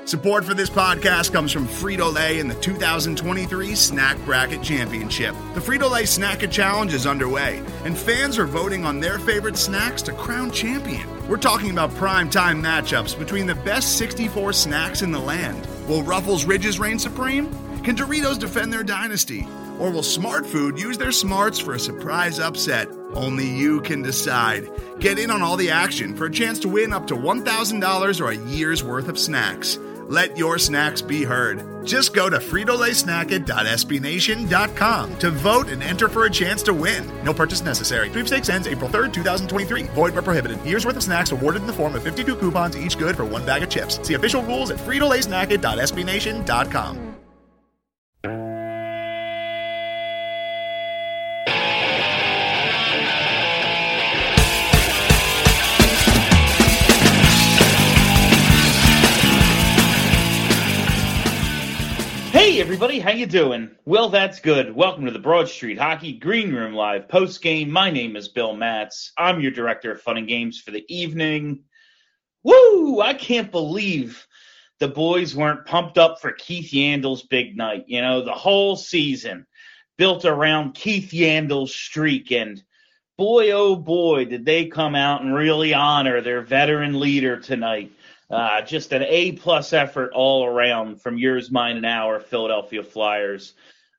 Support for this podcast comes from Frito-Lay and the 2023 Snack Bracket Championship. The Frito-Lay Snack-It Challenge is underway, and fans are voting on their favorite snacks to crown champion. We're talking about prime-time matchups between the best 64 snacks in the land. Will Ruffles Ridges reign supreme? Can Doritos defend their dynasty? Or will Smart Food use their smarts for a surprise upset? Only you can decide. Get in on all the action for a chance to win up to $1,000 or a year's worth of snacks. Let your snacks be heard. Just go to fritolaysnacket.sbnation.com to vote and enter for a chance to win. No purchase necessary. Sweepstakes ends April 3rd, 2023. Void where prohibited. Year's worth of snacks awarded in the form of 52 coupons, each good for one bag of chips. See official rules at fritolaysnacket.sbnation.com. Hey everybody, how you doing? Well, that's good. Welcome to the Broad Street Hockey Green Room Live post-game. My name is Bill Matz. I'm your director of fun and games for the evening. Woo! I can't believe the boys weren't pumped up for Keith Yandle's big night. You know, the whole season built around Keith Yandle's streak, and boy, oh boy, did they come out and really honor their veteran leader tonight. Just an A-plus effort all around from yours, mine, and our Philadelphia Flyers.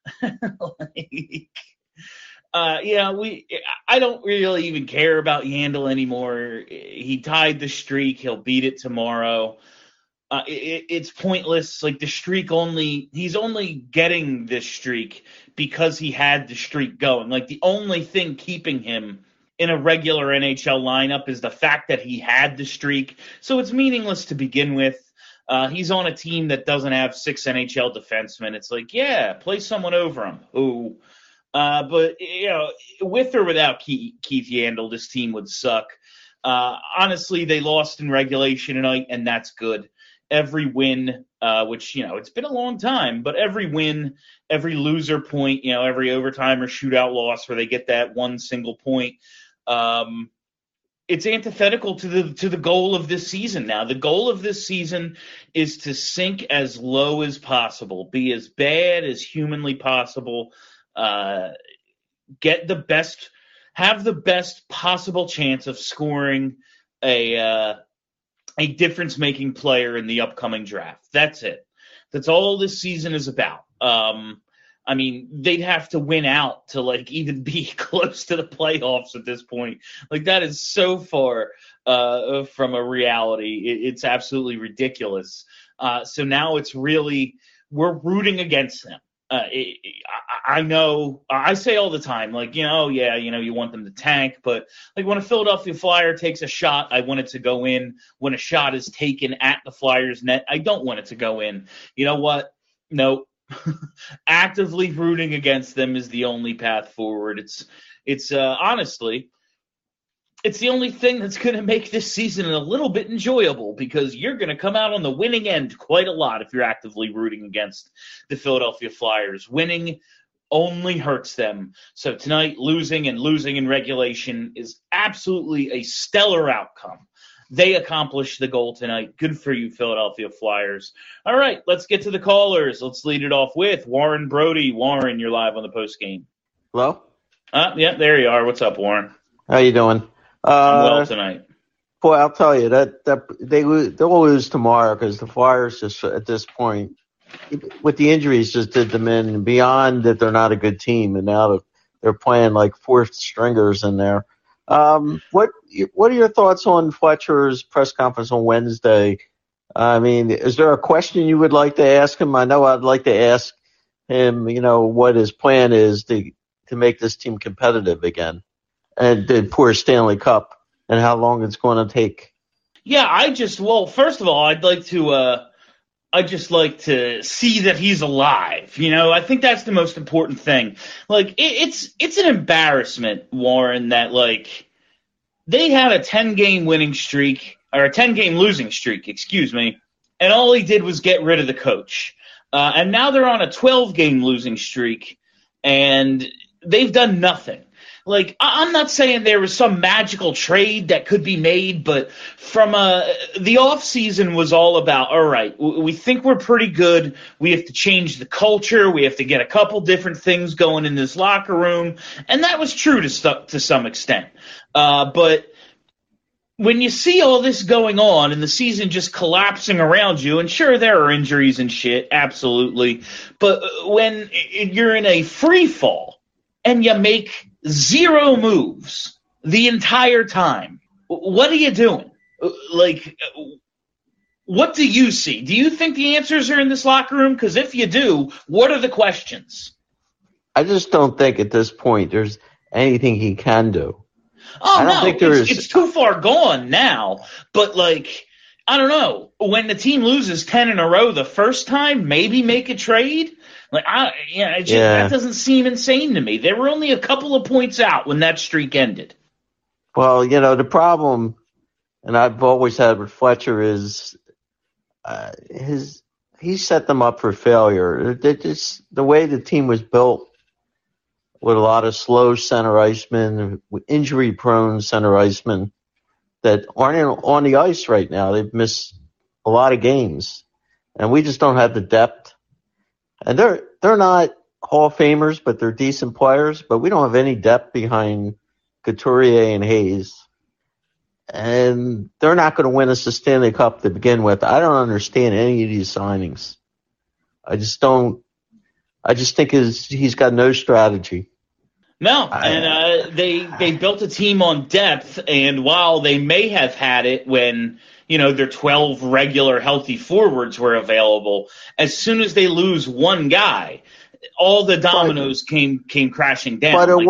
I don't really even care about Yandle anymore. He tied the streak. He'll beat it tomorrow. It's pointless. Like, the streak he's only getting this streak because he had the streak going. Like, the only thing keeping him in a regular NHL lineup is the fact that he had the streak. So it's meaningless to begin with. He's on a team that doesn't have 6 NHL defensemen. It's like, yeah, play someone over him. But, you know, with or without Keith Yandle, this team would suck. Honestly, they lost in regulation tonight, and that's good. Every win, which, you know, it's been a long time, but every win, every loser point, you know, every overtime or shootout loss where they get that one single point, it's antithetical to the goal of this season now. The goal of this season is to sink as low as possible, be as bad as humanly possible, have the best possible chance of scoring a difference-making player in the upcoming draft. That's it. That's all this season is about. I mean, they'd have to win out to, like, even be close to the playoffs at this point. Like, that is so far from a reality. It's absolutely ridiculous. So now it's really, we're rooting against them. I know, I say all the time, like, you know, yeah, you know, you want them to tank, but, like, when a Philadelphia Flyer takes a shot, I want it to go in. When a shot is taken at the Flyers net, I don't want it to go in. You know what? No. Actively rooting against them is the only path forward. It's honestly, it's the only thing that's going to make this season a little bit enjoyable, because you're going to come out on the winning end quite a lot if you're actively rooting against the Philadelphia Flyers. Winning only hurts them. So tonight, losing in regulation is absolutely a stellar outcome. They accomplished the goal tonight. Good for you, Philadelphia Flyers. All right, let's get to the callers. Let's lead it off with Warren Brody. Warren, you're live on the postgame. Hello? Yeah, there you are. What's up, Warren? How you doing? I'm well tonight. Boy, I'll tell you, that they'll lose tomorrow, because the Flyers just, at this point, with the injuries, just did them in, and beyond that they're not a good team, and now they're playing like fourth stringers in there. What are your thoughts on Fletcher's press conference on Wednesday? I mean, is there a question you would like to ask him? I know I'd like to ask him, you know, what his plan is to make this team competitive again, and the poor Stanley Cup, and how long it's going to take. Yeah, first of all, I'd just like to see that he's alive. You know, I think that's the most important thing. Like, it's an embarrassment, Warren, that, like, they had a 10-game winning streak, or a 10-game losing streak, and all he did was get rid of the coach. And now they're on a 12-game losing streak, and they've done nothing. Like, I'm not saying there was some magical trade that could be made, but from the offseason was all about, all right, we think we're pretty good. We have to change the culture. We have to get a couple different things going in this locker room. And that was true to some extent. But when you see all this going on and the season just collapsing around you, and sure, there are injuries and shit, absolutely. But when you're in a free fall and you make 0 moves the entire time, what are you doing? Like, what do you see? Do you think the answers are in this locker room? Because if you do, what are the questions? I just don't think at this point there's anything he can do. Oh, no, it's too far gone now. But, like, I don't know. When the team loses 10 in a row the first time, maybe make a trade? Like, that doesn't seem insane to me. They were only a couple of points out when that streak ended. Well, the problem, and I've always had with Fletcher, is he set them up for failure. The way the team was built, with a lot of slow center icemen, injury-prone center icemen that aren't on the ice right now. They've missed a lot of games, and we just don't have the depth. And they're not Hall of Famers, but they're decent players. But we don't have any depth behind Couturier and Hayes, and they're not going to win us the Stanley Cup to begin with. I don't understand any of these signings. I just don't. I just think he's got no strategy. No, and they built a team on depth, and while they may have had it when their 12 regular healthy forwards were available, as soon as they lose one guy, all the dominoes came crashing down. But it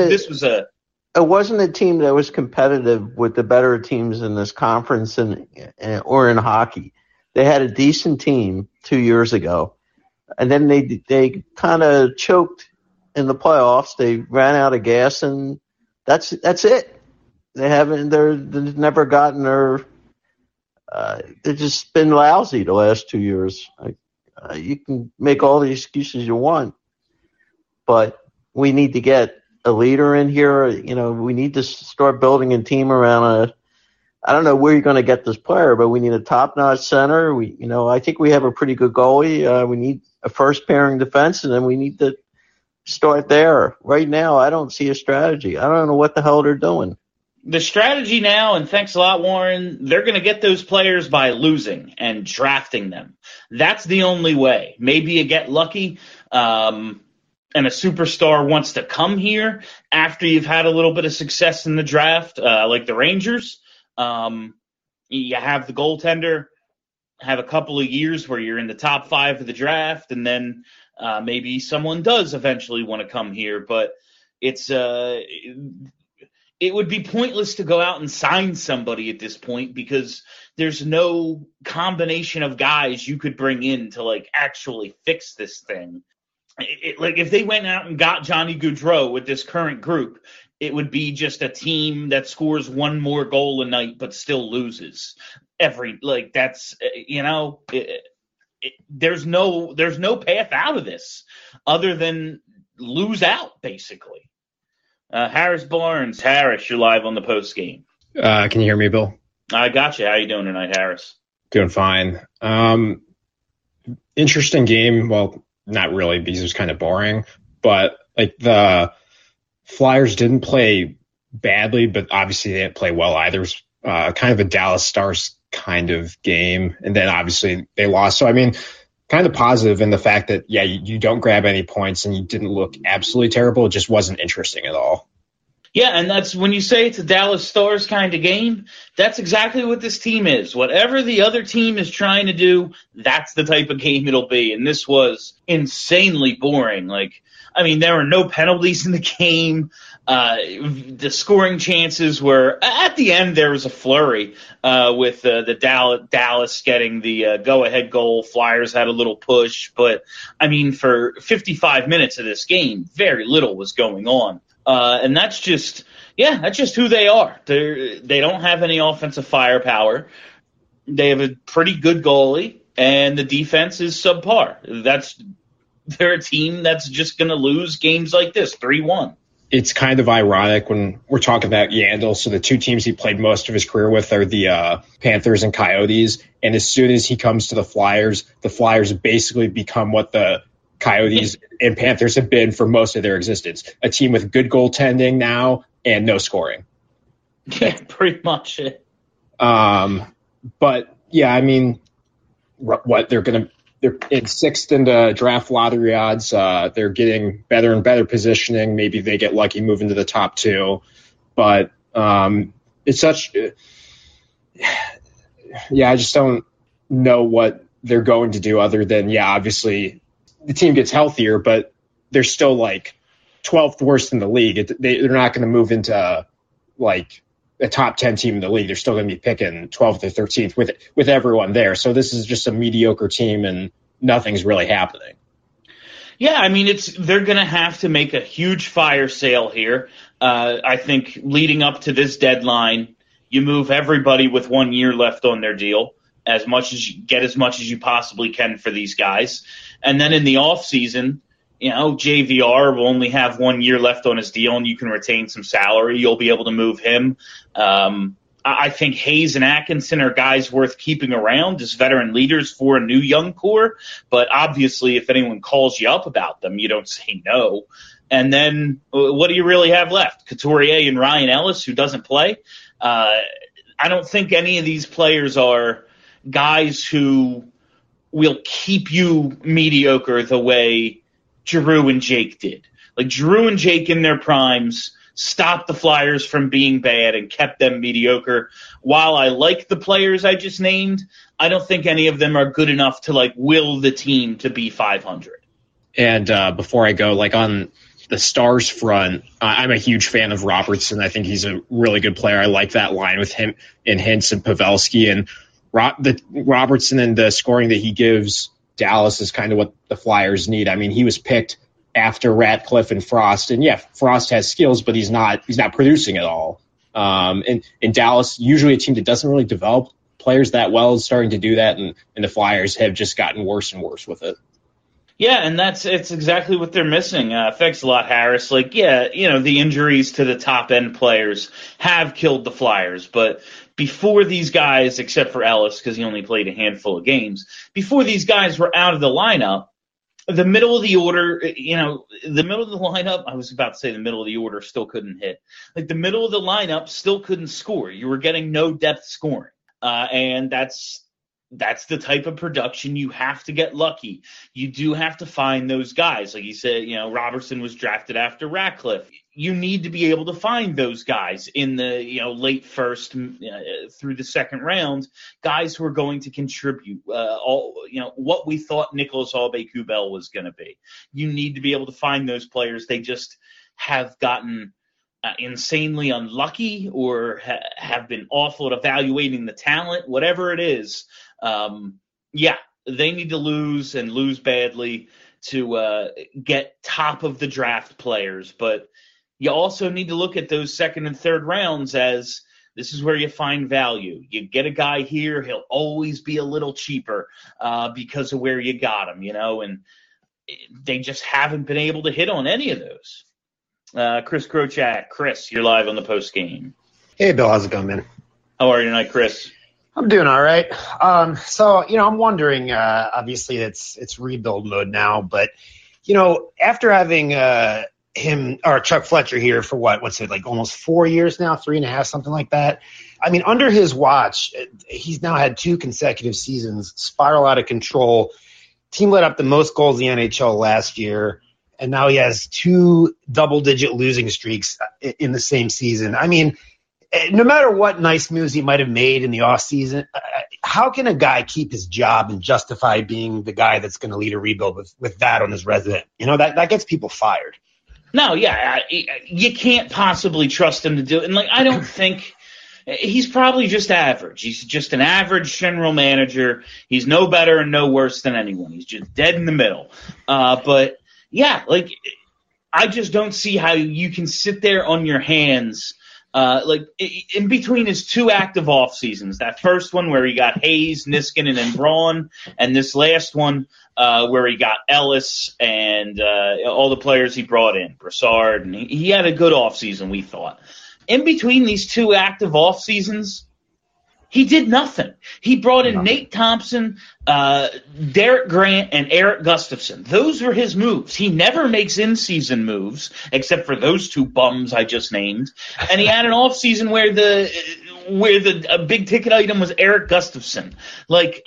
wasn't a team that was competitive with the better teams in this conference or in hockey. They had a decent team 2 years ago. And then they kind of choked in the playoffs. They ran out of gas, and that's it. They've never gotten their. They've just been lousy the last 2 years. You can make all the excuses you want, but we need to get a leader in here. We need to start building a team around I don't know where you're going to get this player, but we need a top-notch center. I think we have a pretty good goalie. We need a first-pairing defense, and then we need to start there. Right now, I don't see a strategy. I don't know what the hell they're doing. The strategy now, and thanks a lot, Warren, they're going to get those players by losing and drafting them. That's the only way. Maybe you get lucky, and a superstar wants to come here after you've had a little bit of success in the draft, like the Rangers. You have the goaltender, have a couple of years where you're in the top 5 of the draft, and then maybe someone does eventually want to come here. But it would be pointless to go out and sign somebody at this point because there's no combination of guys you could bring in to like actually fix this thing. Like if they went out and got Johnny Gaudreau with this current group, it would be just a team that scores one more goal a night but still loses there's no path out of this other than lose out basically. Harris Barnes, you're live on the post game. Can you hear me, Bill? I got you. How you doing tonight, Harris? Doing fine. Interesting game. Well, not really because it was kind of boring, but like the Flyers didn't play badly, but obviously they didn't play well either. It was kind of a Dallas Stars kind of game, and then obviously they lost. So, I mean, kind of positive in the fact that, you don't grab any points and you didn't look absolutely terrible. It just wasn't interesting at all. Yeah, and that's when you say it's a Dallas Stars kind of game, that's exactly what this team is. Whatever the other team is trying to do, that's the type of game it'll be. And this was insanely boring. There were no penalties in the game. The scoring chances were at the end. There was a flurry with the Dallas getting the go-ahead goal. Flyers had a little push, but for 55 minutes of this game, very little was going on. And that's just who they are. They don't have any offensive firepower. They have a pretty good goalie, and the defense is subpar. They're a team that's just going to lose games like this, 3-1. it's kind of ironic when we're talking about Yandle. So the two teams he played most of his career with are the Panthers and Coyotes. And as soon as he comes to the Flyers basically become what the Coyotes and Panthers have been for most of their existence. A team with good goaltending now and no scoring. Yeah, pretty much it. But yeah, I mean, they're in sixth in the draft lottery odds. They're getting better and better positioning. Maybe they get lucky moving to the top two. But it's such – I just don't know what they're going to do other than, obviously the team gets healthier, but they're still like 12th worst in the league. They're not going to move into like a top 10 team in the league. They're still going to be picking 12th or 13th with everyone there. So this is just a mediocre team and nothing's really happening. Yeah, I mean, they're going to have to make a huge fire sale here. I think leading up to this deadline, you move everybody with 1 year left on their deal, as much as you possibly can for these guys. And then in the off season, JVR will only have 1 year left on his deal, and you can retain some salary. You'll be able to move him. I think Hayes and Atkinson are guys worth keeping around as veteran leaders for a new young core. But obviously, if anyone calls you up about them, you don't say no. And then what do you really have left? Couturier and Ryan Ellis, who doesn't play. I don't think any of these players are guys who will keep you mediocre the way Giroux and Jake did. Like Giroux and Jake in their primes stopped the Flyers from being bad and kept them mediocre. While I like the players I just named, I don't think any of them are good enough to like will the team to be 500. And before I go, like on the Stars front, I'm a huge fan of Robertson. I think he's a really good player. I like that line with him and Hintz and Pavelski. And Robertson and the scoring that he gives Dallas is kind of what the Flyers need. I mean, he was picked after Ratcliffe and Frost. And Frost has skills, but he's not producing at all. And in Dallas, usually a team that doesn't really develop players that well is starting to do that. And the Flyers have just gotten worse and worse with it. Yeah, and it's exactly what they're missing. Thanks a lot, Harris. Like, the injuries to the top end players have killed the Flyers, but before these guys, except for Ellis, because he only played a handful of games, before these guys were out of the lineup, the middle of the order, the middle of the lineup, I was about to say the middle of the order still couldn't hit. Like the middle of the lineup still couldn't score. You were getting no depth scoring. And that's the type of production you have to get lucky. You do have to find those guys. Like you said, Robertson was drafted after Ratcliffe. You need to be able to find those guys in the late first through the second round, guys who are going to contribute. What we thought Nicolas Aube-Kubel was going to be. You need to be able to find those players. They just have gotten insanely unlucky or have been awful at evaluating the talent, whatever it is. They need to lose and lose badly to get top of the draft players. But you also need to look at those second and third rounds as this is where you find value. You get a guy here, he'll always be a little cheaper because of where you got him, and they just haven't been able to hit on any of those. Chris Krochak. Chris, you're live on the post game. Hey, Bill. How's it going, man? How are you tonight, Chris? I'm doing all right. I'm wondering, obviously it's rebuild mode now, but, after having him or Chuck Fletcher here for what's it, like almost 4 years now, 3.5, something like that. I mean, under his watch, he's now had 2 consecutive seasons spiral out of control. Team let up the most goals in the NHL last year, and now he has 2 double-digit losing streaks in the same season. I mean, no matter what nice moves he might have made in the offseason, how can a guy keep his job and justify being the guy that's going to lead a rebuild with that on his resume? That gets people fired. No, you can't possibly trust him to do it. And, I don't think – he's probably just average. He's just an average general manager. He's no better and no worse than anyone. He's just dead in the middle. I just don't see how you can sit there on your hands like in between his two active off seasons, that first one where he got Hayes, Niskanen, and Braun, and this last one where he got Ellis and all the players he brought in, Brassard, and he had a good off season, we thought. In between these two active off seasons, he did nothing. He brought in Nate Thompson, Derek Grant, and Eric Gustafson. Those were his moves. He never makes in-season moves, except for those two bums I just named. And he had an off-season where the big ticket item was Eric Gustafson. Like,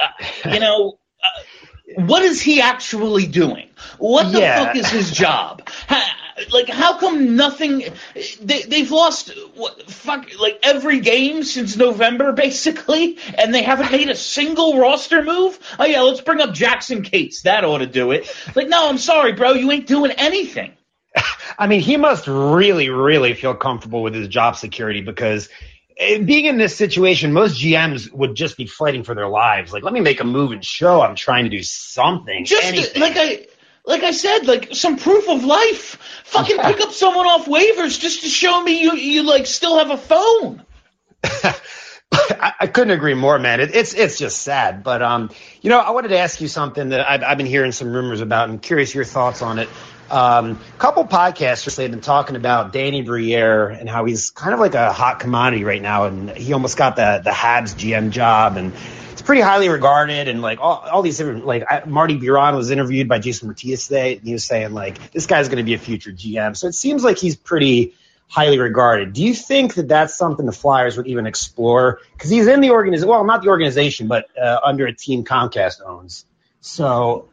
what is he actually doing? What the fuck is his job? How come nothing? They've lost every game since November, basically, and they haven't made a single roster move. Oh yeah, let's bring up Jackson Cates. That ought to do it. Like, no, I'm sorry, bro, you ain't doing anything. I mean, he must really, really feel comfortable with his job security, because being in this situation, most GMs would just be fighting for their lives. Like, let me make a move and show I'm trying to do something. Anything. Like I said, like some proof of life. Fucking pick up someone off waivers just to show me you like still have a phone. I couldn't agree more, man. It's just sad. But I wanted to ask you something that I've been hearing some rumors about. I'm curious your thoughts on it. A couple podcasters have been talking about Danny Briere and how he's kind of like a hot commodity right now, and he almost got the Habs GM job, and it's pretty highly regarded, and like all these different, like Marty Biron was interviewed by Jason Matias today, and he was saying like this guy's going to be a future GM. So it seems like he's pretty highly regarded. Do you think that that's something the Flyers would even explore? Because he's in the organization, well, not the organization, but under a team Comcast owns. So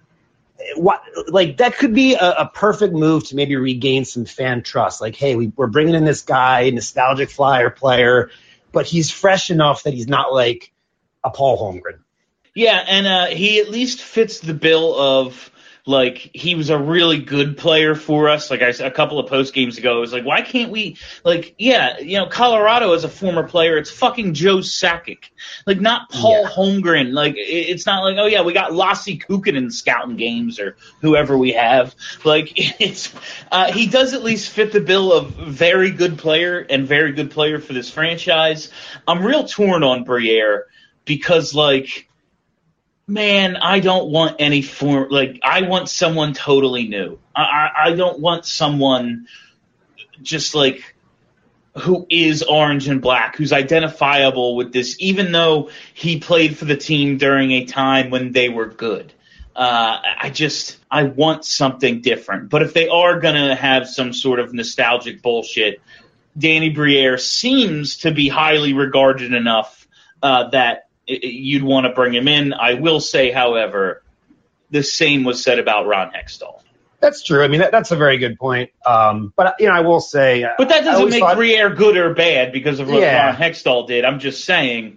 that could be a perfect move to maybe regain some fan trust. Like, hey, we're bringing in this guy, nostalgic Flyer player, but he's fresh enough that he's not like a Paul Holmgren. Yeah, and he at least fits the bill of, like, he was a really good player for us. Like, a couple of post games ago, I was like, why can't we, like, Colorado as a former player, it's fucking Joe Sakic. Like, not Paul Holmgren. Like, it's not like, oh, yeah, we got Lassi Kukkonen scouting games or whoever we have. Like, it's he does at least fit the bill of very good player and very good player for this franchise. I'm real torn on Briere because, like, man, I don't want any form. Like, I want someone totally new. I don't want someone just like who is orange and black, who's identifiable with this, even though he played for the team during a time when they were good. I want something different. But if they are going to have some sort of nostalgic bullshit, Danny Briere seems to be highly regarded enough that you'd want to bring him in. I will say, however, the same was said about Ron Hextall. That's true. I mean, that's a very good point. But I will say, but that doesn't make Briere good or bad because of what Ron Hextall did. I'm just saying,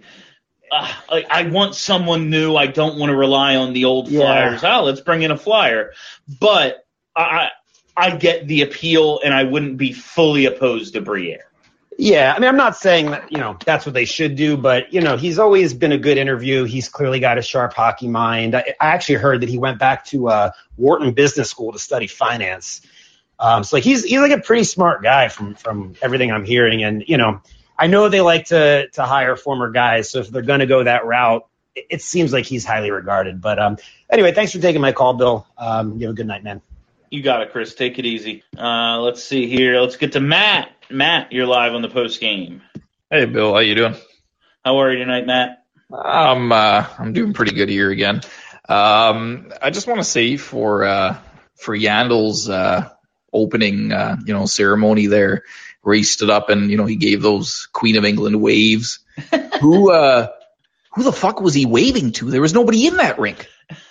I want someone new. I don't want to rely on the old Flyers. Oh, let's bring in a Flyer. But I get the appeal, and I wouldn't be fully opposed to Briere. Yeah, I mean, I'm not saying that, that's what they should do, but, he's always been a good interview. He's clearly got a sharp hockey mind. I actually heard that he went back to Wharton Business School to study finance. So he's like a pretty smart guy from everything I'm hearing. And, I know they like to hire former guys. So if they're going to go that route, it seems like he's highly regarded. But anyway, thanks for taking my call, Bill. You have a good night, man. You got it, Chris. Take it easy. Let's see here. Let's get to Matt. Matt, you're live on the post game. Hey, Bill. How you doing? How are you tonight, Matt? I'm doing pretty good here again. I just want to say for Yandel's opening ceremony there, where he stood up and he gave those Queen of England waves. Who the fuck was he waving to? There was nobody in that rink.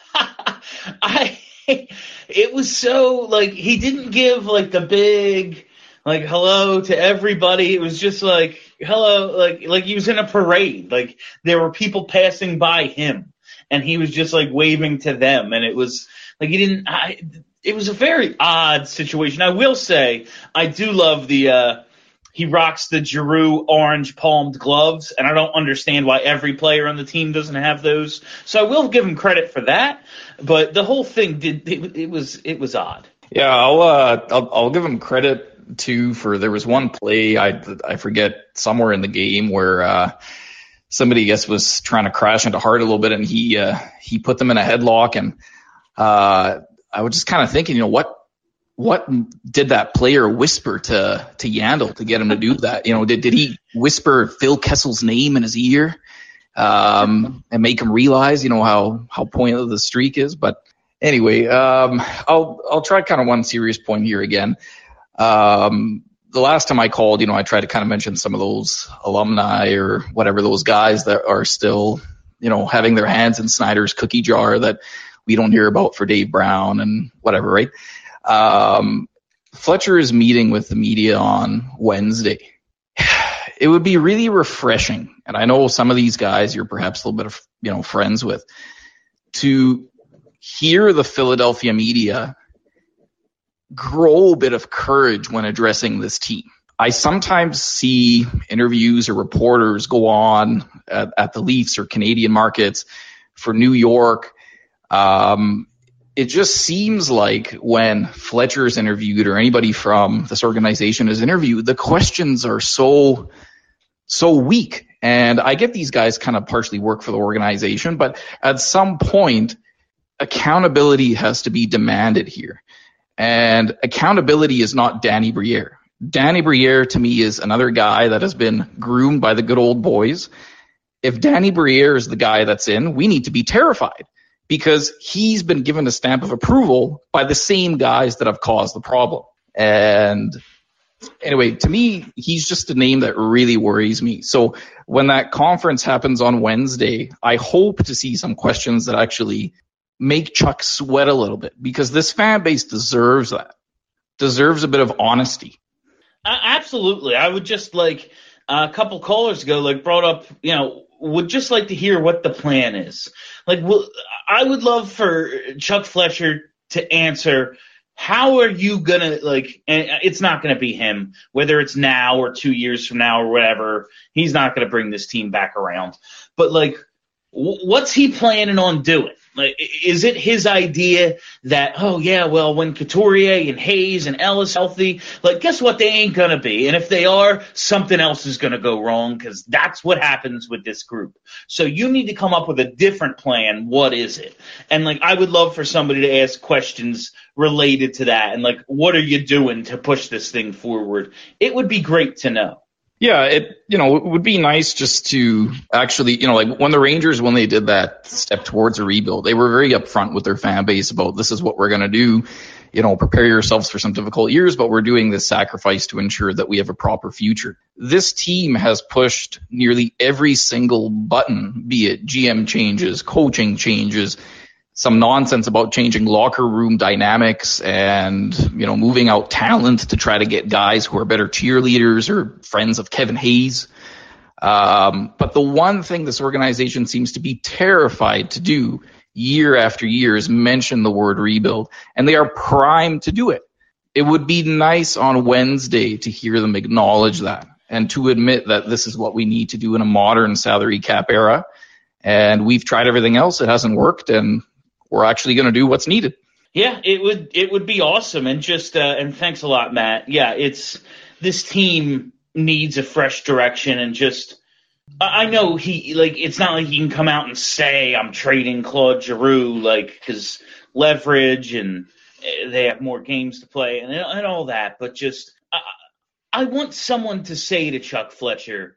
It was so, like, he didn't give, like, the big, like, hello to everybody. It was just like, hello, like he was in a parade. Like, there were people passing by him, and he was just, like, waving to them. And it was, like, it was a very odd situation. I will say, I do love he rocks the Giroux orange palmed gloves, and I don't understand why every player on the team doesn't have those. So I will give him credit for that, but the whole thing it was odd. Yeah, I'll give him credit too, there was one play, I forget, somewhere in the game where somebody, I guess, was trying to crash into Hart a little bit, and he put them in a headlock. And I was just kind of thinking, what did that player whisper to Yandle to get him to do that? Did he whisper Phil Kessel's name in his ear and make him realize, how pointless the streak is? But anyway, I'll try kind of one serious point here again. The last time I called, I tried to kind of mention some of those alumni or whatever, those guys that are still, having their hands in Snyder's cookie jar that we don't hear about for Dave Brown and whatever, right? Fletcher is meeting with the media on Wednesday. It would be really refreshing, and I know some of these guys you're perhaps a little bit of, friends with, to hear the Philadelphia media grow a bit of courage when addressing this team. I sometimes see interviews or reporters go on at the Leafs or Canadian markets for New York. It just seems like when Fletcher is interviewed or anybody from this organization is interviewed, the questions are so weak. And I get these guys kind of partially work for the organization, but at some point, accountability has to be demanded here. And accountability is not Danny Briere. Danny Briere, to me, is another guy that has been groomed by the good old boys. If Danny Briere is the guy that's in, we need to be terrified because he's been given a stamp of approval by the same guys that have caused the problem. And anyway, to me, he's just a name that really worries me. So when that conference happens on Wednesday, I hope to see some questions that actually make Chuck sweat a little bit, because this fan base deserves that, deserves a bit of honesty. Absolutely. I would just like a couple callers ago, brought up, would just like to hear what the plan is. I would love for Chuck Fletcher to answer, how are you going to, and it's not going to be him, whether it's now or 2 years from now or whatever, he's not going to bring this team back around. But, what's he planning on doing? Is it his idea that, when Couturier and Hayes and Ellis healthy, guess what? They ain't going to be. And if they are, something else is going to go wrong, because that's what happens with this group. So you need to come up with a different plan. What is it? And, I would love for somebody to ask questions related to that. And, what are you doing to push this thing forward? It would be great to know. Yeah, it would be nice just to actually, when the Rangers, when they did that step towards a rebuild, they were very upfront with their fan base about, this is what we're going to do, prepare yourselves for some difficult years, but we're doing this sacrifice to ensure that we have a proper future. This team has pushed nearly every single button, be it GM changes, coaching changes, some nonsense about changing locker room dynamics and, moving out talent to try to get guys who are better cheerleaders or friends of Kevin Hayes. But the one thing this organization seems to be terrified to do year after year is mention the word rebuild, and they are primed to do it. It would be nice on Wednesday to hear them acknowledge that and to admit that this is what we need to do in a modern salary cap era. And we've tried everything else. It hasn't worked, and we're actually going to do what's needed. Yeah, it would be awesome. And just and thanks a lot, Matt. Yeah, this team needs a fresh direction, and just I know it's not like he can come out and say I'm trading Claude Giroux, because leverage and they have more games to play and all that. But just I want someone to say to Chuck Fletcher,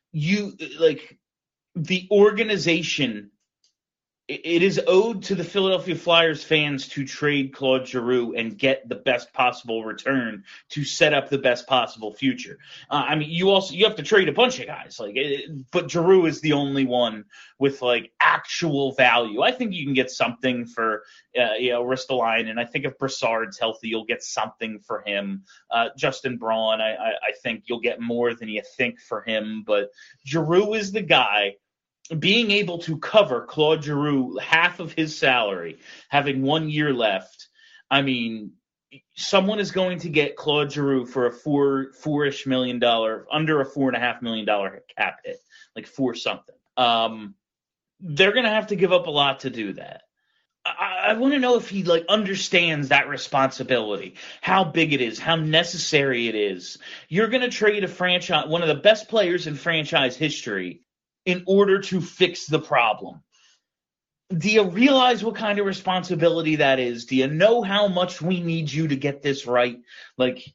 the organization. It is owed to the Philadelphia Flyers fans to trade Claude Giroux and get the best possible return to set up the best possible future. You have to trade a bunch of guys, but Giroux is the only one with actual value. I think you can get something for Ristolainen, and I think if Brassard's healthy, you'll get something for him. Justin Braun, I think you'll get more than you think for him, but Giroux is the guy. Being able to cover Claude Giroux half of his salary, having 1 year left, someone is going to get Claude Giroux for a $4-ish million, under a $4.5 million cap hit, for something. They're going to have to give up a lot to do that. I want to know if he like understands that responsibility, how big it is, how necessary it is. You're going to trade a franchise, one of the best players in franchise history, in order to fix the problem. Do you realize what kind of responsibility that is? Do you know how much we need you to get this right? Like,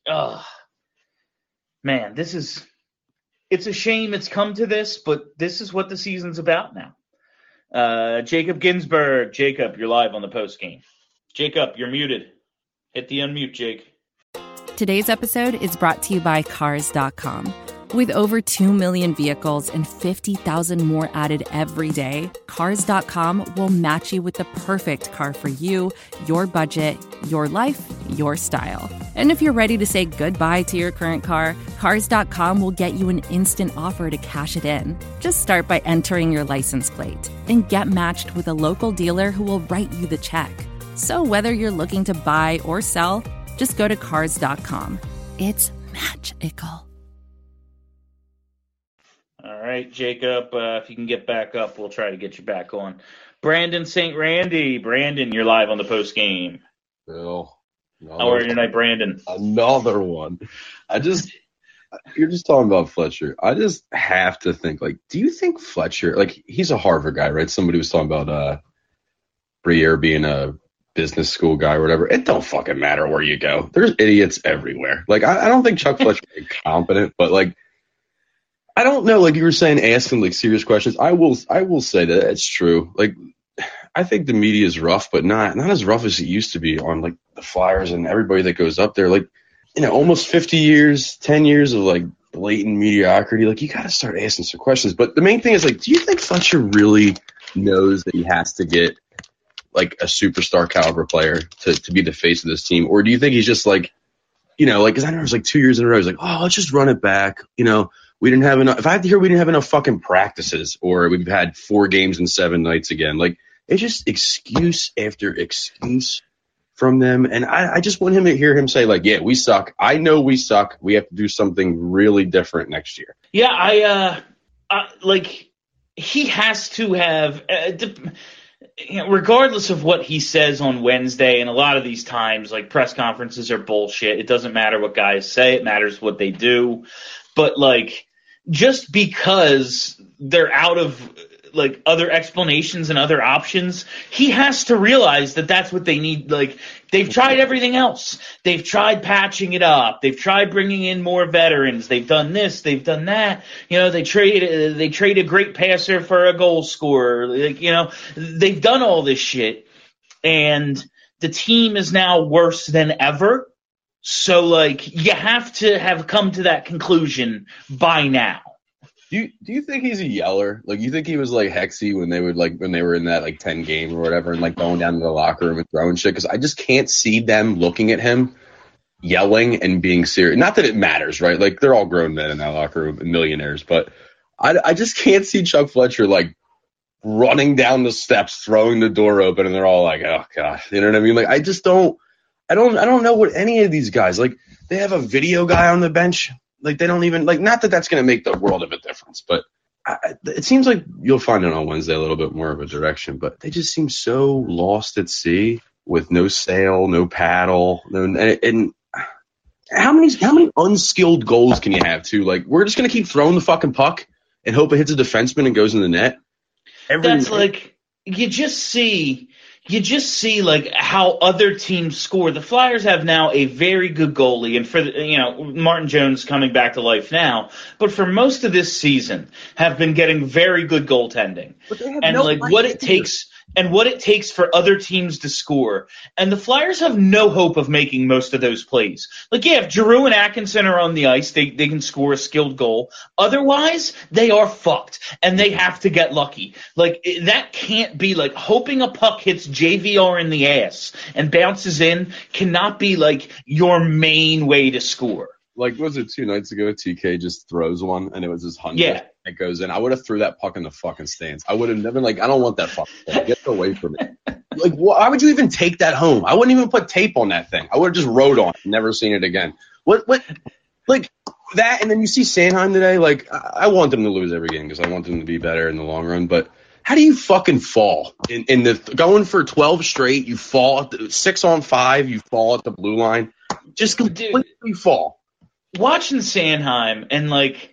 man, it's a shame it's come to this, but this is what the season's about now. Jacob Ginsburg. Jacob, you're live on the post game. Jacob, you're muted. Hit the unmute, Jake. Today's episode is brought to you by Cars.com. With over 2 million vehicles and 50,000 more added every day, Cars.com will match you with the perfect car for you, your budget, your life, your style. And if you're ready to say goodbye to your current car, Cars.com will get you an instant offer to cash it in. Just start by entering your license plate and get matched with a local dealer who will write you the check. So whether you're looking to buy or sell, just go to Cars.com. It's magical. All right, Jacob, if you can get back up, we'll try to get you back on. Brandon St. Randy. Brandon, you're live on the post game. Bill. How are you tonight, Brandon? Another one. You're just talking about Fletcher. I just have to think, like, do you think Fletcher, like, he's a Harvard guy, right? Somebody was talking about Briere being a business school guy or whatever. It don't fucking matter where you go. There's idiots everywhere. Like, I don't think Chuck Fletcher is incompetent, but, like, I don't know. Like you were saying, asking, like, serious questions. I will say that it's true. Like, I think the media is rough, but not as rough as it used to be on, like, the Flyers and everybody that goes up there. Like, you know, almost 50 years, 10 years of, like, blatant mediocrity. Like, you got to start asking some questions. But the main thing is, like, do you think Fletcher really knows that he has to get, like, a superstar caliber player to be the face of this team? Or do you think he's just, like, you know, like, because I know it was, like, 2 years in a row, he's like, oh, let's just run it back. You know, we didn't have enough. If I had to hear we didn't have enough fucking practices, or we've had 4 games in 7 nights again. Like, it's just excuse after excuse from them. And I just want him to hear him say, like, yeah, we suck. I know we suck. We have to do something really different next year. Yeah, like, he has to have, regardless of what he says on Wednesday, and a lot of these times, like, press conferences are bullshit. It doesn't matter what guys say. It matters what they do. But, like, just because they're out of, like, other explanations and other options, he has to realize that that's what they need. Like, they've tried everything else. They've tried patching it up. They've tried bringing in more veterans. They've done this. They've done that. You know, they trade a great passer for a goal scorer. Like, you know, they've done all this shit, and the team is now worse than ever. So, like, you have to have come to that conclusion by now. Do you think he's a yeller? Like, you think he was like Hexy when they were in that, like, 10 game or whatever, and, like, going down to the locker room and throwing shit? Because I just can't see them looking at him yelling and being serious. Not that it matters, right? Like, they're all grown men in that locker room and millionaires, but I just can't see Chuck Fletcher, like, running down the steps, throwing the door open, and they're all like, oh god, you know what I mean? Like, I just don't know what any of these guys, like, they have a video guy on the bench. Like, they don't even, like, not that that's going to make the world of a difference, but it seems like you'll find it on Wednesday a little bit more of a direction, but they just seem so lost at sea with no sail, no paddle, and how many unskilled goals can you have too? Like, we're just going to keep throwing the fucking puck and hope it hits a defenseman and goes in the net. That's like, you just see like how other teams score. The Flyers have now a very good goalie, and for Martin Jones coming back to life now, but for most of this season have been getting very good goaltending. And like what it takes for other teams to score. And the Flyers have no hope of making most of those plays. Like, yeah, if Giroux and Atkinson are on the ice, they can score a skilled goal. Otherwise, they are fucked, and they have to get lucky. Like, that can't be, like, hoping a puck hits JVR in the ass and bounces in cannot be, like, your main way to score. Like, was it 2 nights ago, TK just throws one, and it was his 100th. Yeah. It goes in. I would have threw that puck in the fucking stands. I would have never, like, I don't want that fucking thing. Get away from it. Like, why would you even take that home? I wouldn't even put tape on that thing. I would have just rode on it, never seen it again. What, like, that, and then you see Sanheim today. Like, I want them to lose every game because I want them to be better in the long run, but how do you fucking fall in the going for 12 straight? You fall at the 6-on-5. You fall at the blue line. Just completely fall. Watching Sanheim and like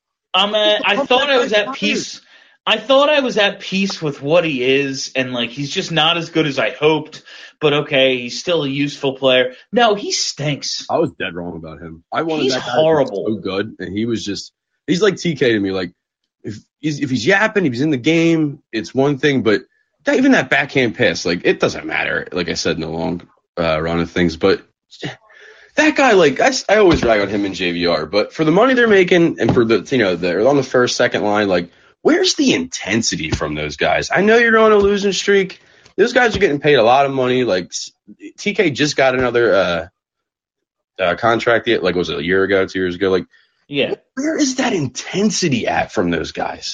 I thought I was at peace. I thought I was at peace with what he is, and like he's just not as good as I hoped. But okay, he's still a useful player. No, he stinks. I was dead wrong about him. I wanted He's that guy horrible. to be so good, and he's like TK to me. Like if he's yapping, if he's in the game, it's one thing. But even that backhand pass, like it doesn't matter. Like I said in the long run of things, but that guy, like I always rag on him and JVR. But for the money they're making, and for they're on the first, second line, like. Where's the intensity from those guys? I know you're on a losing streak. Those guys are getting paid a lot of money. Like TK just got another contract. Like was it a year ago, 2 years ago? Like, yeah. Where is that intensity at from those guys?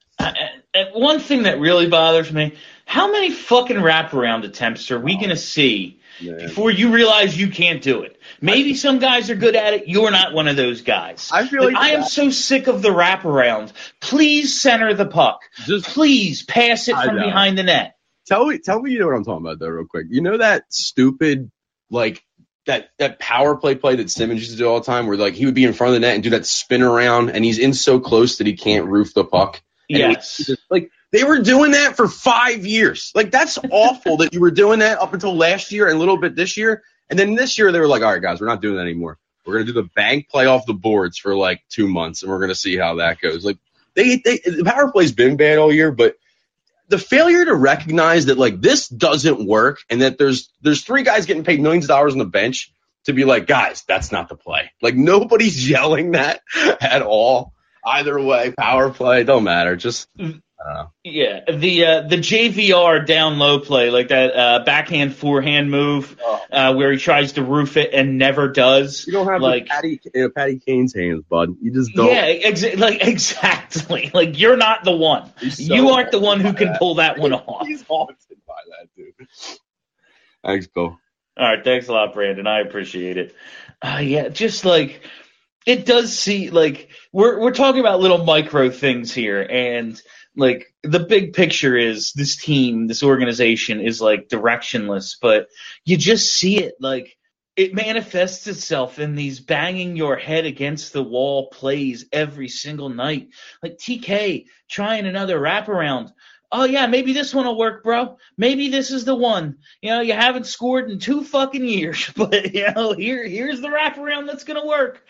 One thing that really bothers me: how many fucking wraparound attempts are we gonna see before you realize you can't do it? Maybe some guys are good at it. You're not one of those guys. I feel like I am so sick of the wraparound. Please center the puck. Please pass it from behind the net. Tell me you know what I'm talking about though, real quick. You know that stupid like that power play that Simmons used to do all the time, where like he would be in front of the net and do that spin around, and he's in so close that he can't roof the puck. Yes. Like they were doing that for 5 years. Like that's awful that you were doing that up until last year and a little bit this year. And then this year they were like, all right, guys, we're not doing that anymore. We're going to do the bank play off the boards for like 2 months, and we're going to see how that goes. Like the power play's been bad all year, but the failure to recognize that like this doesn't work, and that there's 3 guys getting paid millions of dollars on the bench to be like, guys, that's not the play. Like nobody's yelling that at all. Either way, power play, don't matter. Just I don't know. Yeah, the JVR down low play, like that backhand forehand move where he tries to roof it and never does. You don't have like Patty Kane's hands, bud. You just don't. Yeah, exactly. Like you're not the one. You aren't the one who can pull that one off. He's haunted by that, dude. Thanks, Bill. All right, thanks a lot, Brandon. I appreciate it. Yeah, just like it does see like we're talking about little micro things here, and like the big picture is this team, this organization is like directionless, but you just see it like it manifests itself in these banging your head against the wall plays every single night. Like TK trying another wraparound. Oh yeah, maybe this one will work, bro. Maybe this is the one. You know, you haven't scored in 2 fucking years, but you know, here's the wraparound that's gonna work.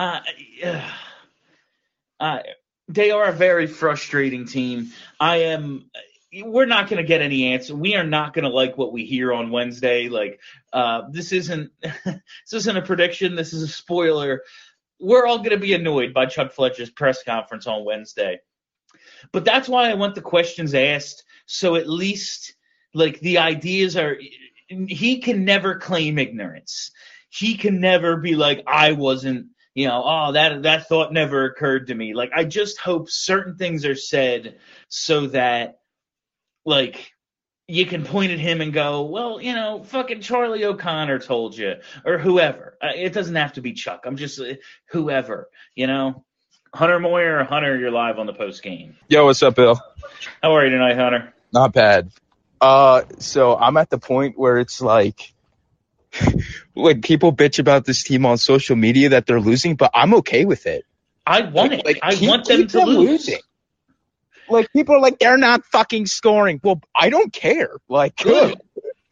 They are a very frustrating team. We're not going to get any answer. We are not going to like what we hear on Wednesday. Like, this isn't a prediction. This is a spoiler. We're all going to be annoyed by Chuck Fletcher's press conference on Wednesday. But that's why I want the questions asked. So at least like the ideas are, he can never claim ignorance. He can never be like, I wasn't, you know, oh, that thought never occurred to me. Like, I just hope certain things are said so that, like, you can point at him and go, well, you know, fucking Charlie O'Connor told you, or whoever. It doesn't have to be Chuck. I'm just whoever, you know. Hunter Moyer or Hunter, you're live on the post game. Yo, what's up, Bill? How are you tonight, Hunter? Not bad. So I'm at the point where it's like people bitch about this team on social media that they're losing, but I'm okay with it. I want it. I want them to lose. Losing. Like, people are like, they're not fucking scoring. Well, I don't care. Like, good.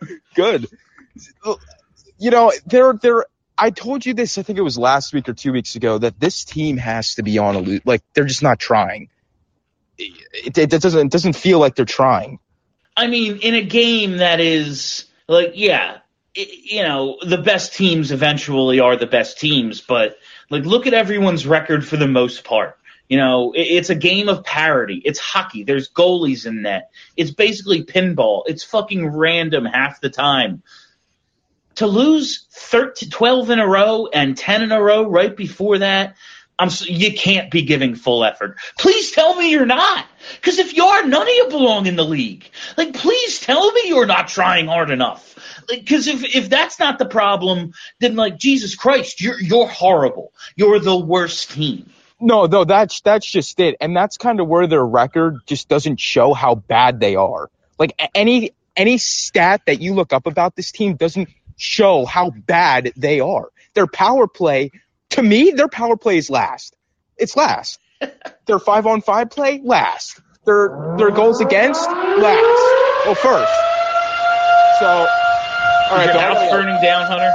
You know, I told you this, I think it was last week or 2 weeks ago, that this team has to be on a lose. Like, they're just not trying. It doesn't feel like they're trying. I mean, in a game that is, like, yeah, you know, the best teams eventually are the best teams, but, like, look at everyone's record for the most part. You know, it's a game of parity. It's hockey. There's goalies in net. It's basically pinball. It's fucking random half the time. To lose 12 in a row and 10 in a row right before that, you can't be giving full effort. Please tell me you're not. Because if you are, none of you belong in the league. Like, please tell me you're not trying hard enough. Because if that's not the problem, then, like, Jesus Christ, you're horrible. You're the worst team. No, that's just it. And that's kind of where their record just doesn't show how bad they are. Like any stat that you look up about this team doesn't show how bad they are. Their power play, to me, their power play is last. It's last. Their 5-on-5 play, last. Their goals against, last. Well, first. So, all right. Your house burning down, Hunter?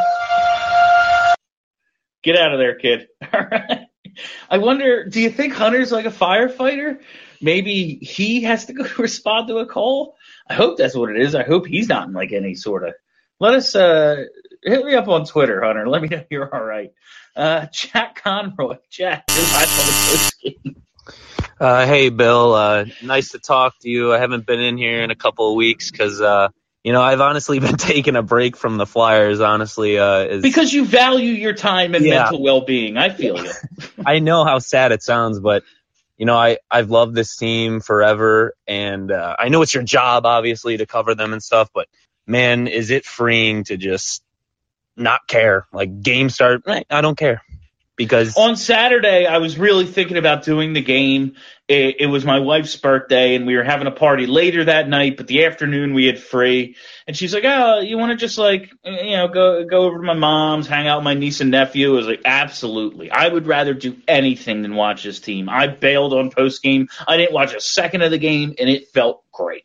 Get out of there, kid. All right. I wonder, do you think Hunter's like a firefighter? Maybe he has to go respond to a call? I hope that's what it is. I hope he's not in like any sort of. Let us hit me up on Twitter, Hunter. Let me know you're all right. Jack Conroy. Jack, you're live on the post game. Hey, Bill. Nice to talk to you. I haven't been in here in a couple of weeks because, I've honestly been taking a break from the Flyers, honestly. Because you value your time and mental well-being. I feel you. I know how sad it sounds, but, I've loved this team forever, and I know it's your job, obviously, to cover them and stuff, but, man, is it freeing to just not care. Like, game start, I don't care. Because on Saturday, I was really thinking about doing the game. It was my wife's birthday, and we were having a party later that night, but the afternoon we had free. And she's like, oh, you want to just, go over to my mom's, hang out with my niece and nephew? I was like, absolutely. I would rather do anything than watch this team. I bailed on post-game. I didn't watch a second of the game, and it felt great.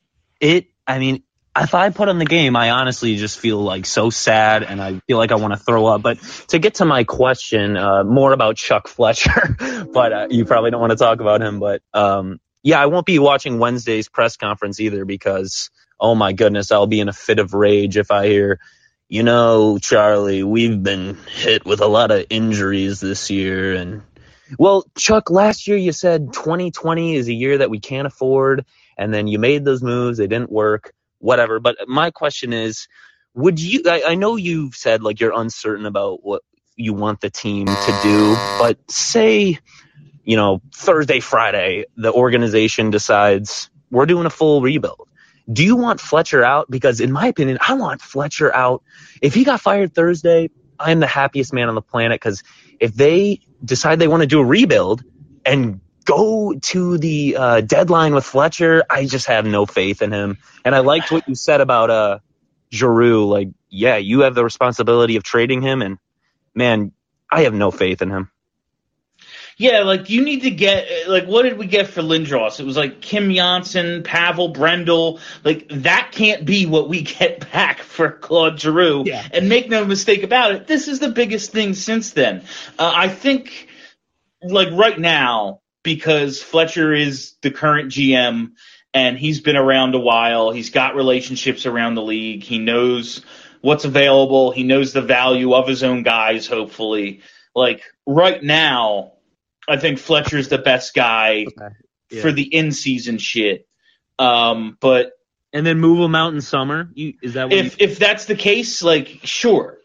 If I put on the game, I honestly just feel like so sad and I feel like I want to throw up. But to get to my question, more about Chuck Fletcher, but you probably don't want to talk about him. But I won't be watching Wednesday's press conference either because, oh my goodness, I'll be in a fit of rage if I hear, Charlie, we've been hit with a lot of injuries this year. And well, Chuck, last year you said 2020 is a year that we can't afford. And then you made those moves. They didn't work. Whatever. But my question is, I know you've said like you're uncertain about what you want the team to do, but say, Thursday, Friday, the organization decides we're doing a full rebuild. Do you want Fletcher out? Because in my opinion, I want Fletcher out. If he got fired Thursday, I'm the happiest man on the planet because if they decide they want to do a rebuild and go to the deadline with Fletcher, I just have no faith in him. And I liked what you said about Giroux. Like, yeah, you have the responsibility of trading him, and, man, I have no faith in him. Yeah, you need to get, what did we get for Lindros? It was Kim Janssen, Pavel Brendel. That can't be what we get back for Claude Giroux. Yeah. And make no mistake about it, this is the biggest thing since then. I think, right now, because Fletcher is the current GM and he's been around a while. He's got relationships around the league. He knows what's available. He knows the value of his own guys, hopefully. Right now, I think Fletcher's the best guy for the in-season shit. But and then move him out in summer? Is that what if that's the case, sure.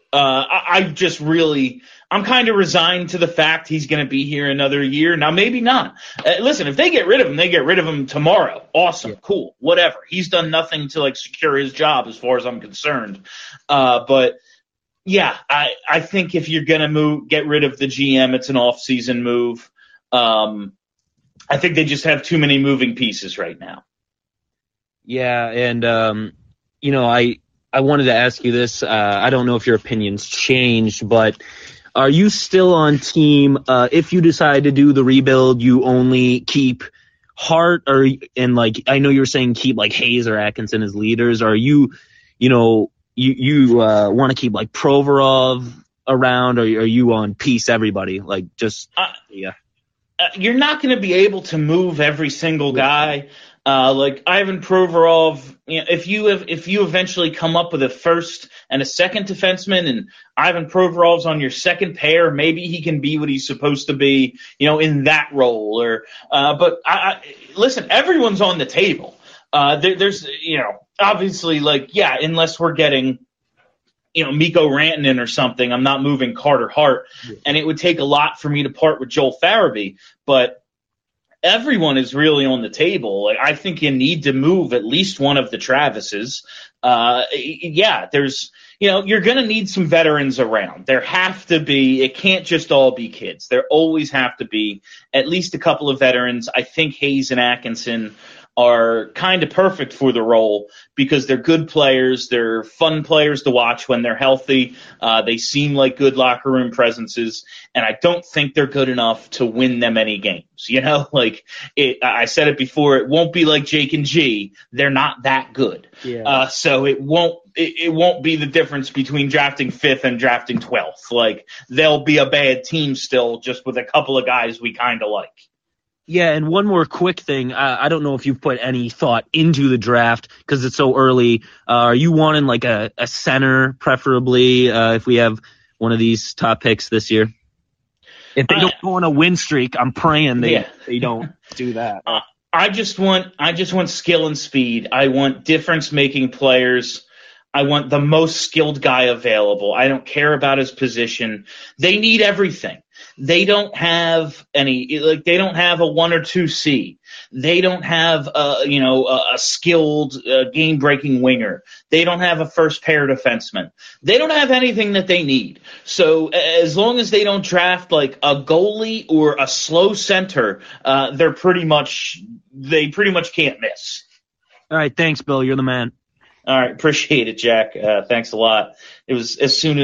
I'm kind of resigned to the fact he's going to be here another year. Now, maybe not. Listen, if they get rid of him, they get rid of him tomorrow. Awesome. Yeah. Cool. Whatever. He's done nothing to secure his job as far as I'm concerned. But yeah, I think if you're going to get rid of the GM, it's an off-season move. I think they just have too many moving pieces right now. Yeah. And, I wanted to ask you this. I don't know if your opinion's changed, but are you still on team? If you decide to do the rebuild, you only keep Hart, I know you're saying keep Hayes or Atkinson as leaders. Are you, you want to keep Provorov around, or are you on piece everybody? You're not going to be able to move every single guy. Ivan Provorov, if you eventually come up with a first and a second defenseman and Ivan Provorov's on your second pair, maybe he can be what he's supposed to be, in that role. But listen, everyone's on the table. There's, obviously, unless we're getting, Mikko Rantanen or something, I'm not moving Carter Hart, and it would take a lot for me to part with Joel Farabee. But everyone is really on the table. Like, I think you need to move at least one of the Travises. You're going to need some veterans around. There have to be. It can't just all be kids. There always have to be at least a couple of veterans. I think Hayes and Atkinson are kind of perfect for the role because they're good players. They're fun players to watch when they're healthy. They seem like good locker room presences, and I don't think they're good enough to win them any games. I said it before, it won't be like Jake and G. They're not that good. Yeah. So it won't be the difference between drafting 5th and drafting 12th. Like, they'll be a bad team still, just with a couple of guys we kind of like. Yeah, and one more quick thing. I don't know if you've put any thought into the draft because it's so early. Are you wanting like a center, preferably, if we have one of these top picks this year? If they don't go on a win streak, I'm praying they don't do that. I just want skill and speed. I want difference-making players. I want the most skilled guy available. I don't care about his position. They need everything. They don't have they don't have a 1 or 2C. They don't have a skilled game-breaking winger. They don't have a first pair defenseman. They don't have anything that they need. So as long as they don't draft like a goalie or a slow center, they pretty much can't miss. All right, thanks, Bill. You're the man. All right, appreciate it, Jack. Thanks a lot. It was as soon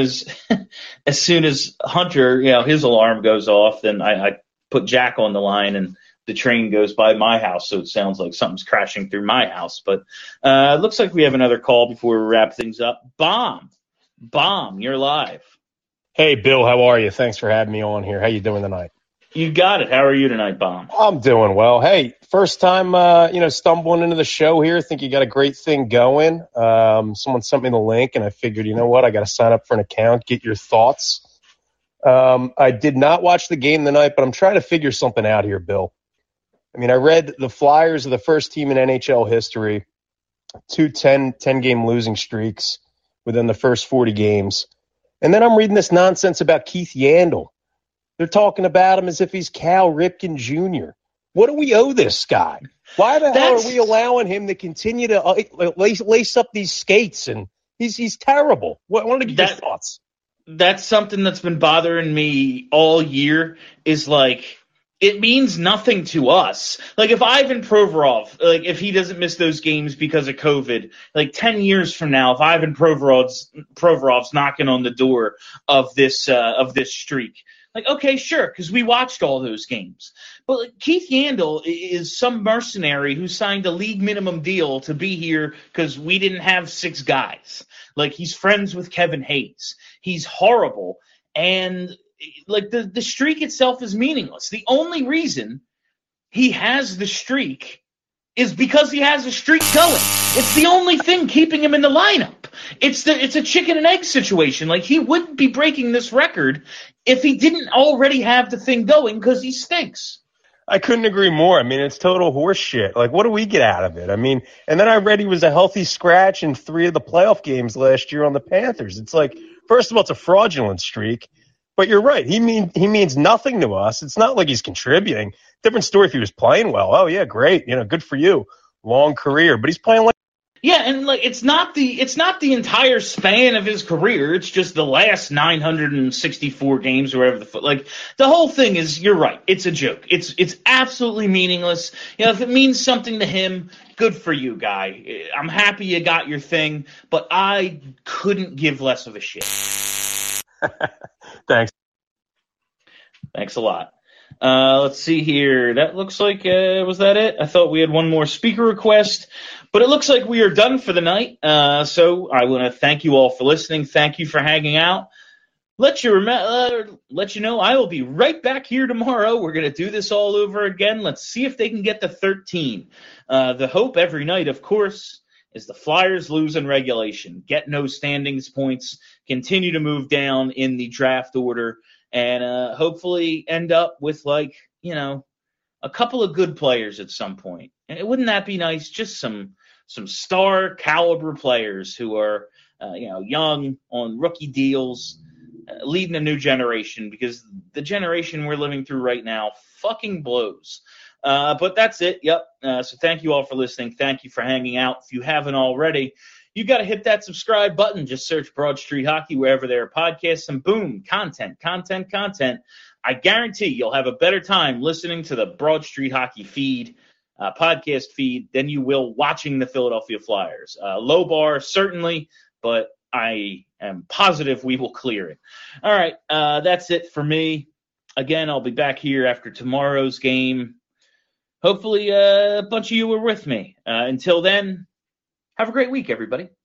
as Hunter, his alarm goes off, then I put Jack on the line, and the train goes by my house, so it sounds like something's crashing through my house. But it looks like we have another call before we wrap things up. Bomb, you're live. Hey, Bill, how are you? Thanks for having me on here. How you doing tonight? You got it. How are you tonight, Bomb? I'm doing well. Hey, first time, stumbling into the show here. Think you got a great thing going. Someone sent me the link, and I figured, you know what? I got to sign up for an account, get your thoughts. I did not watch the game tonight, but I'm trying to figure something out here, Bill. I mean, I read the Flyers are the first team in NHL history, 2 10-game losing streaks within the first 40 games. And then I'm reading this nonsense about Keith Yandle. They're talking about him as if he's Cal Ripken Jr. What do we owe this guy? Why the hell are we allowing him to continue to lace up these skates? And he's terrible. I wanted to get your thoughts. That's something that's been bothering me all year is like, it means nothing to us. Like, if Ivan Provorov, if he doesn't miss those games because of COVID, 10 years from now, if Ivan Provorov's knocking on the door of this streak, okay, sure, because we watched all those games. But Keith Yandle is some mercenary who signed a league minimum deal to be here because we didn't have 6 guys. He's friends with Kevin Hayes. He's horrible. And the streak itself is meaningless. The only reason he has the streak is because he has a streak going. It's the only thing keeping him in the lineup. It's a chicken and egg situation. He wouldn't be breaking this record if he didn't already have the thing going because he stinks. I couldn't agree more. I mean, it's total horse shit. What do we get out of it? I mean, and then I read he was a healthy scratch in 3 of the playoff games last year on the Panthers. It's first of all, it's a fraudulent streak. But you're right. He means nothing to us. It's not like he's contributing. Different story if he was playing well. Oh yeah, great. Good for you. Long career. But he's playing like. Yeah, and it's not the entire span of his career. It's just the last 964 games or whatever the whole thing is. You're right. It's a joke. It's absolutely meaningless. If it means something to him, good for you, guy. I'm happy you got your thing, but I couldn't give less of a shit. Thanks. Thanks a lot. Let's see here. That looks like, was that it? I thought we had one more speaker request, but it looks like we are done for the night. So I want to thank you all for listening. Thank you for hanging out. Let you know I will be right back here tomorrow. We're going to do this all over again. Let's see if they can get to 13. The hope every night, of course, is the Flyers lose in regulation, get no standings points, continue to move down in the draft order, and hopefully end up with a couple of good players at some point. And wouldn't that be nice? Just some star caliber players who are young on rookie deals, leading a new generation, because the generation we're living through right now fucking blows. But that's it. Yep. So thank you all for listening. Thank you for hanging out. If you haven't already, you got to hit that subscribe button. Just search Broad Street Hockey wherever there are podcasts, and boom, content. I guarantee you'll have a better time listening to the Broad Street Hockey feed, podcast feed, than you will watching the Philadelphia Flyers. Low bar, certainly, but I am positive we will clear it. All right, that's it for me. Again, I'll be back here after tomorrow's game. Hopefully a bunch of you were with me. Until then, have a great week, everybody.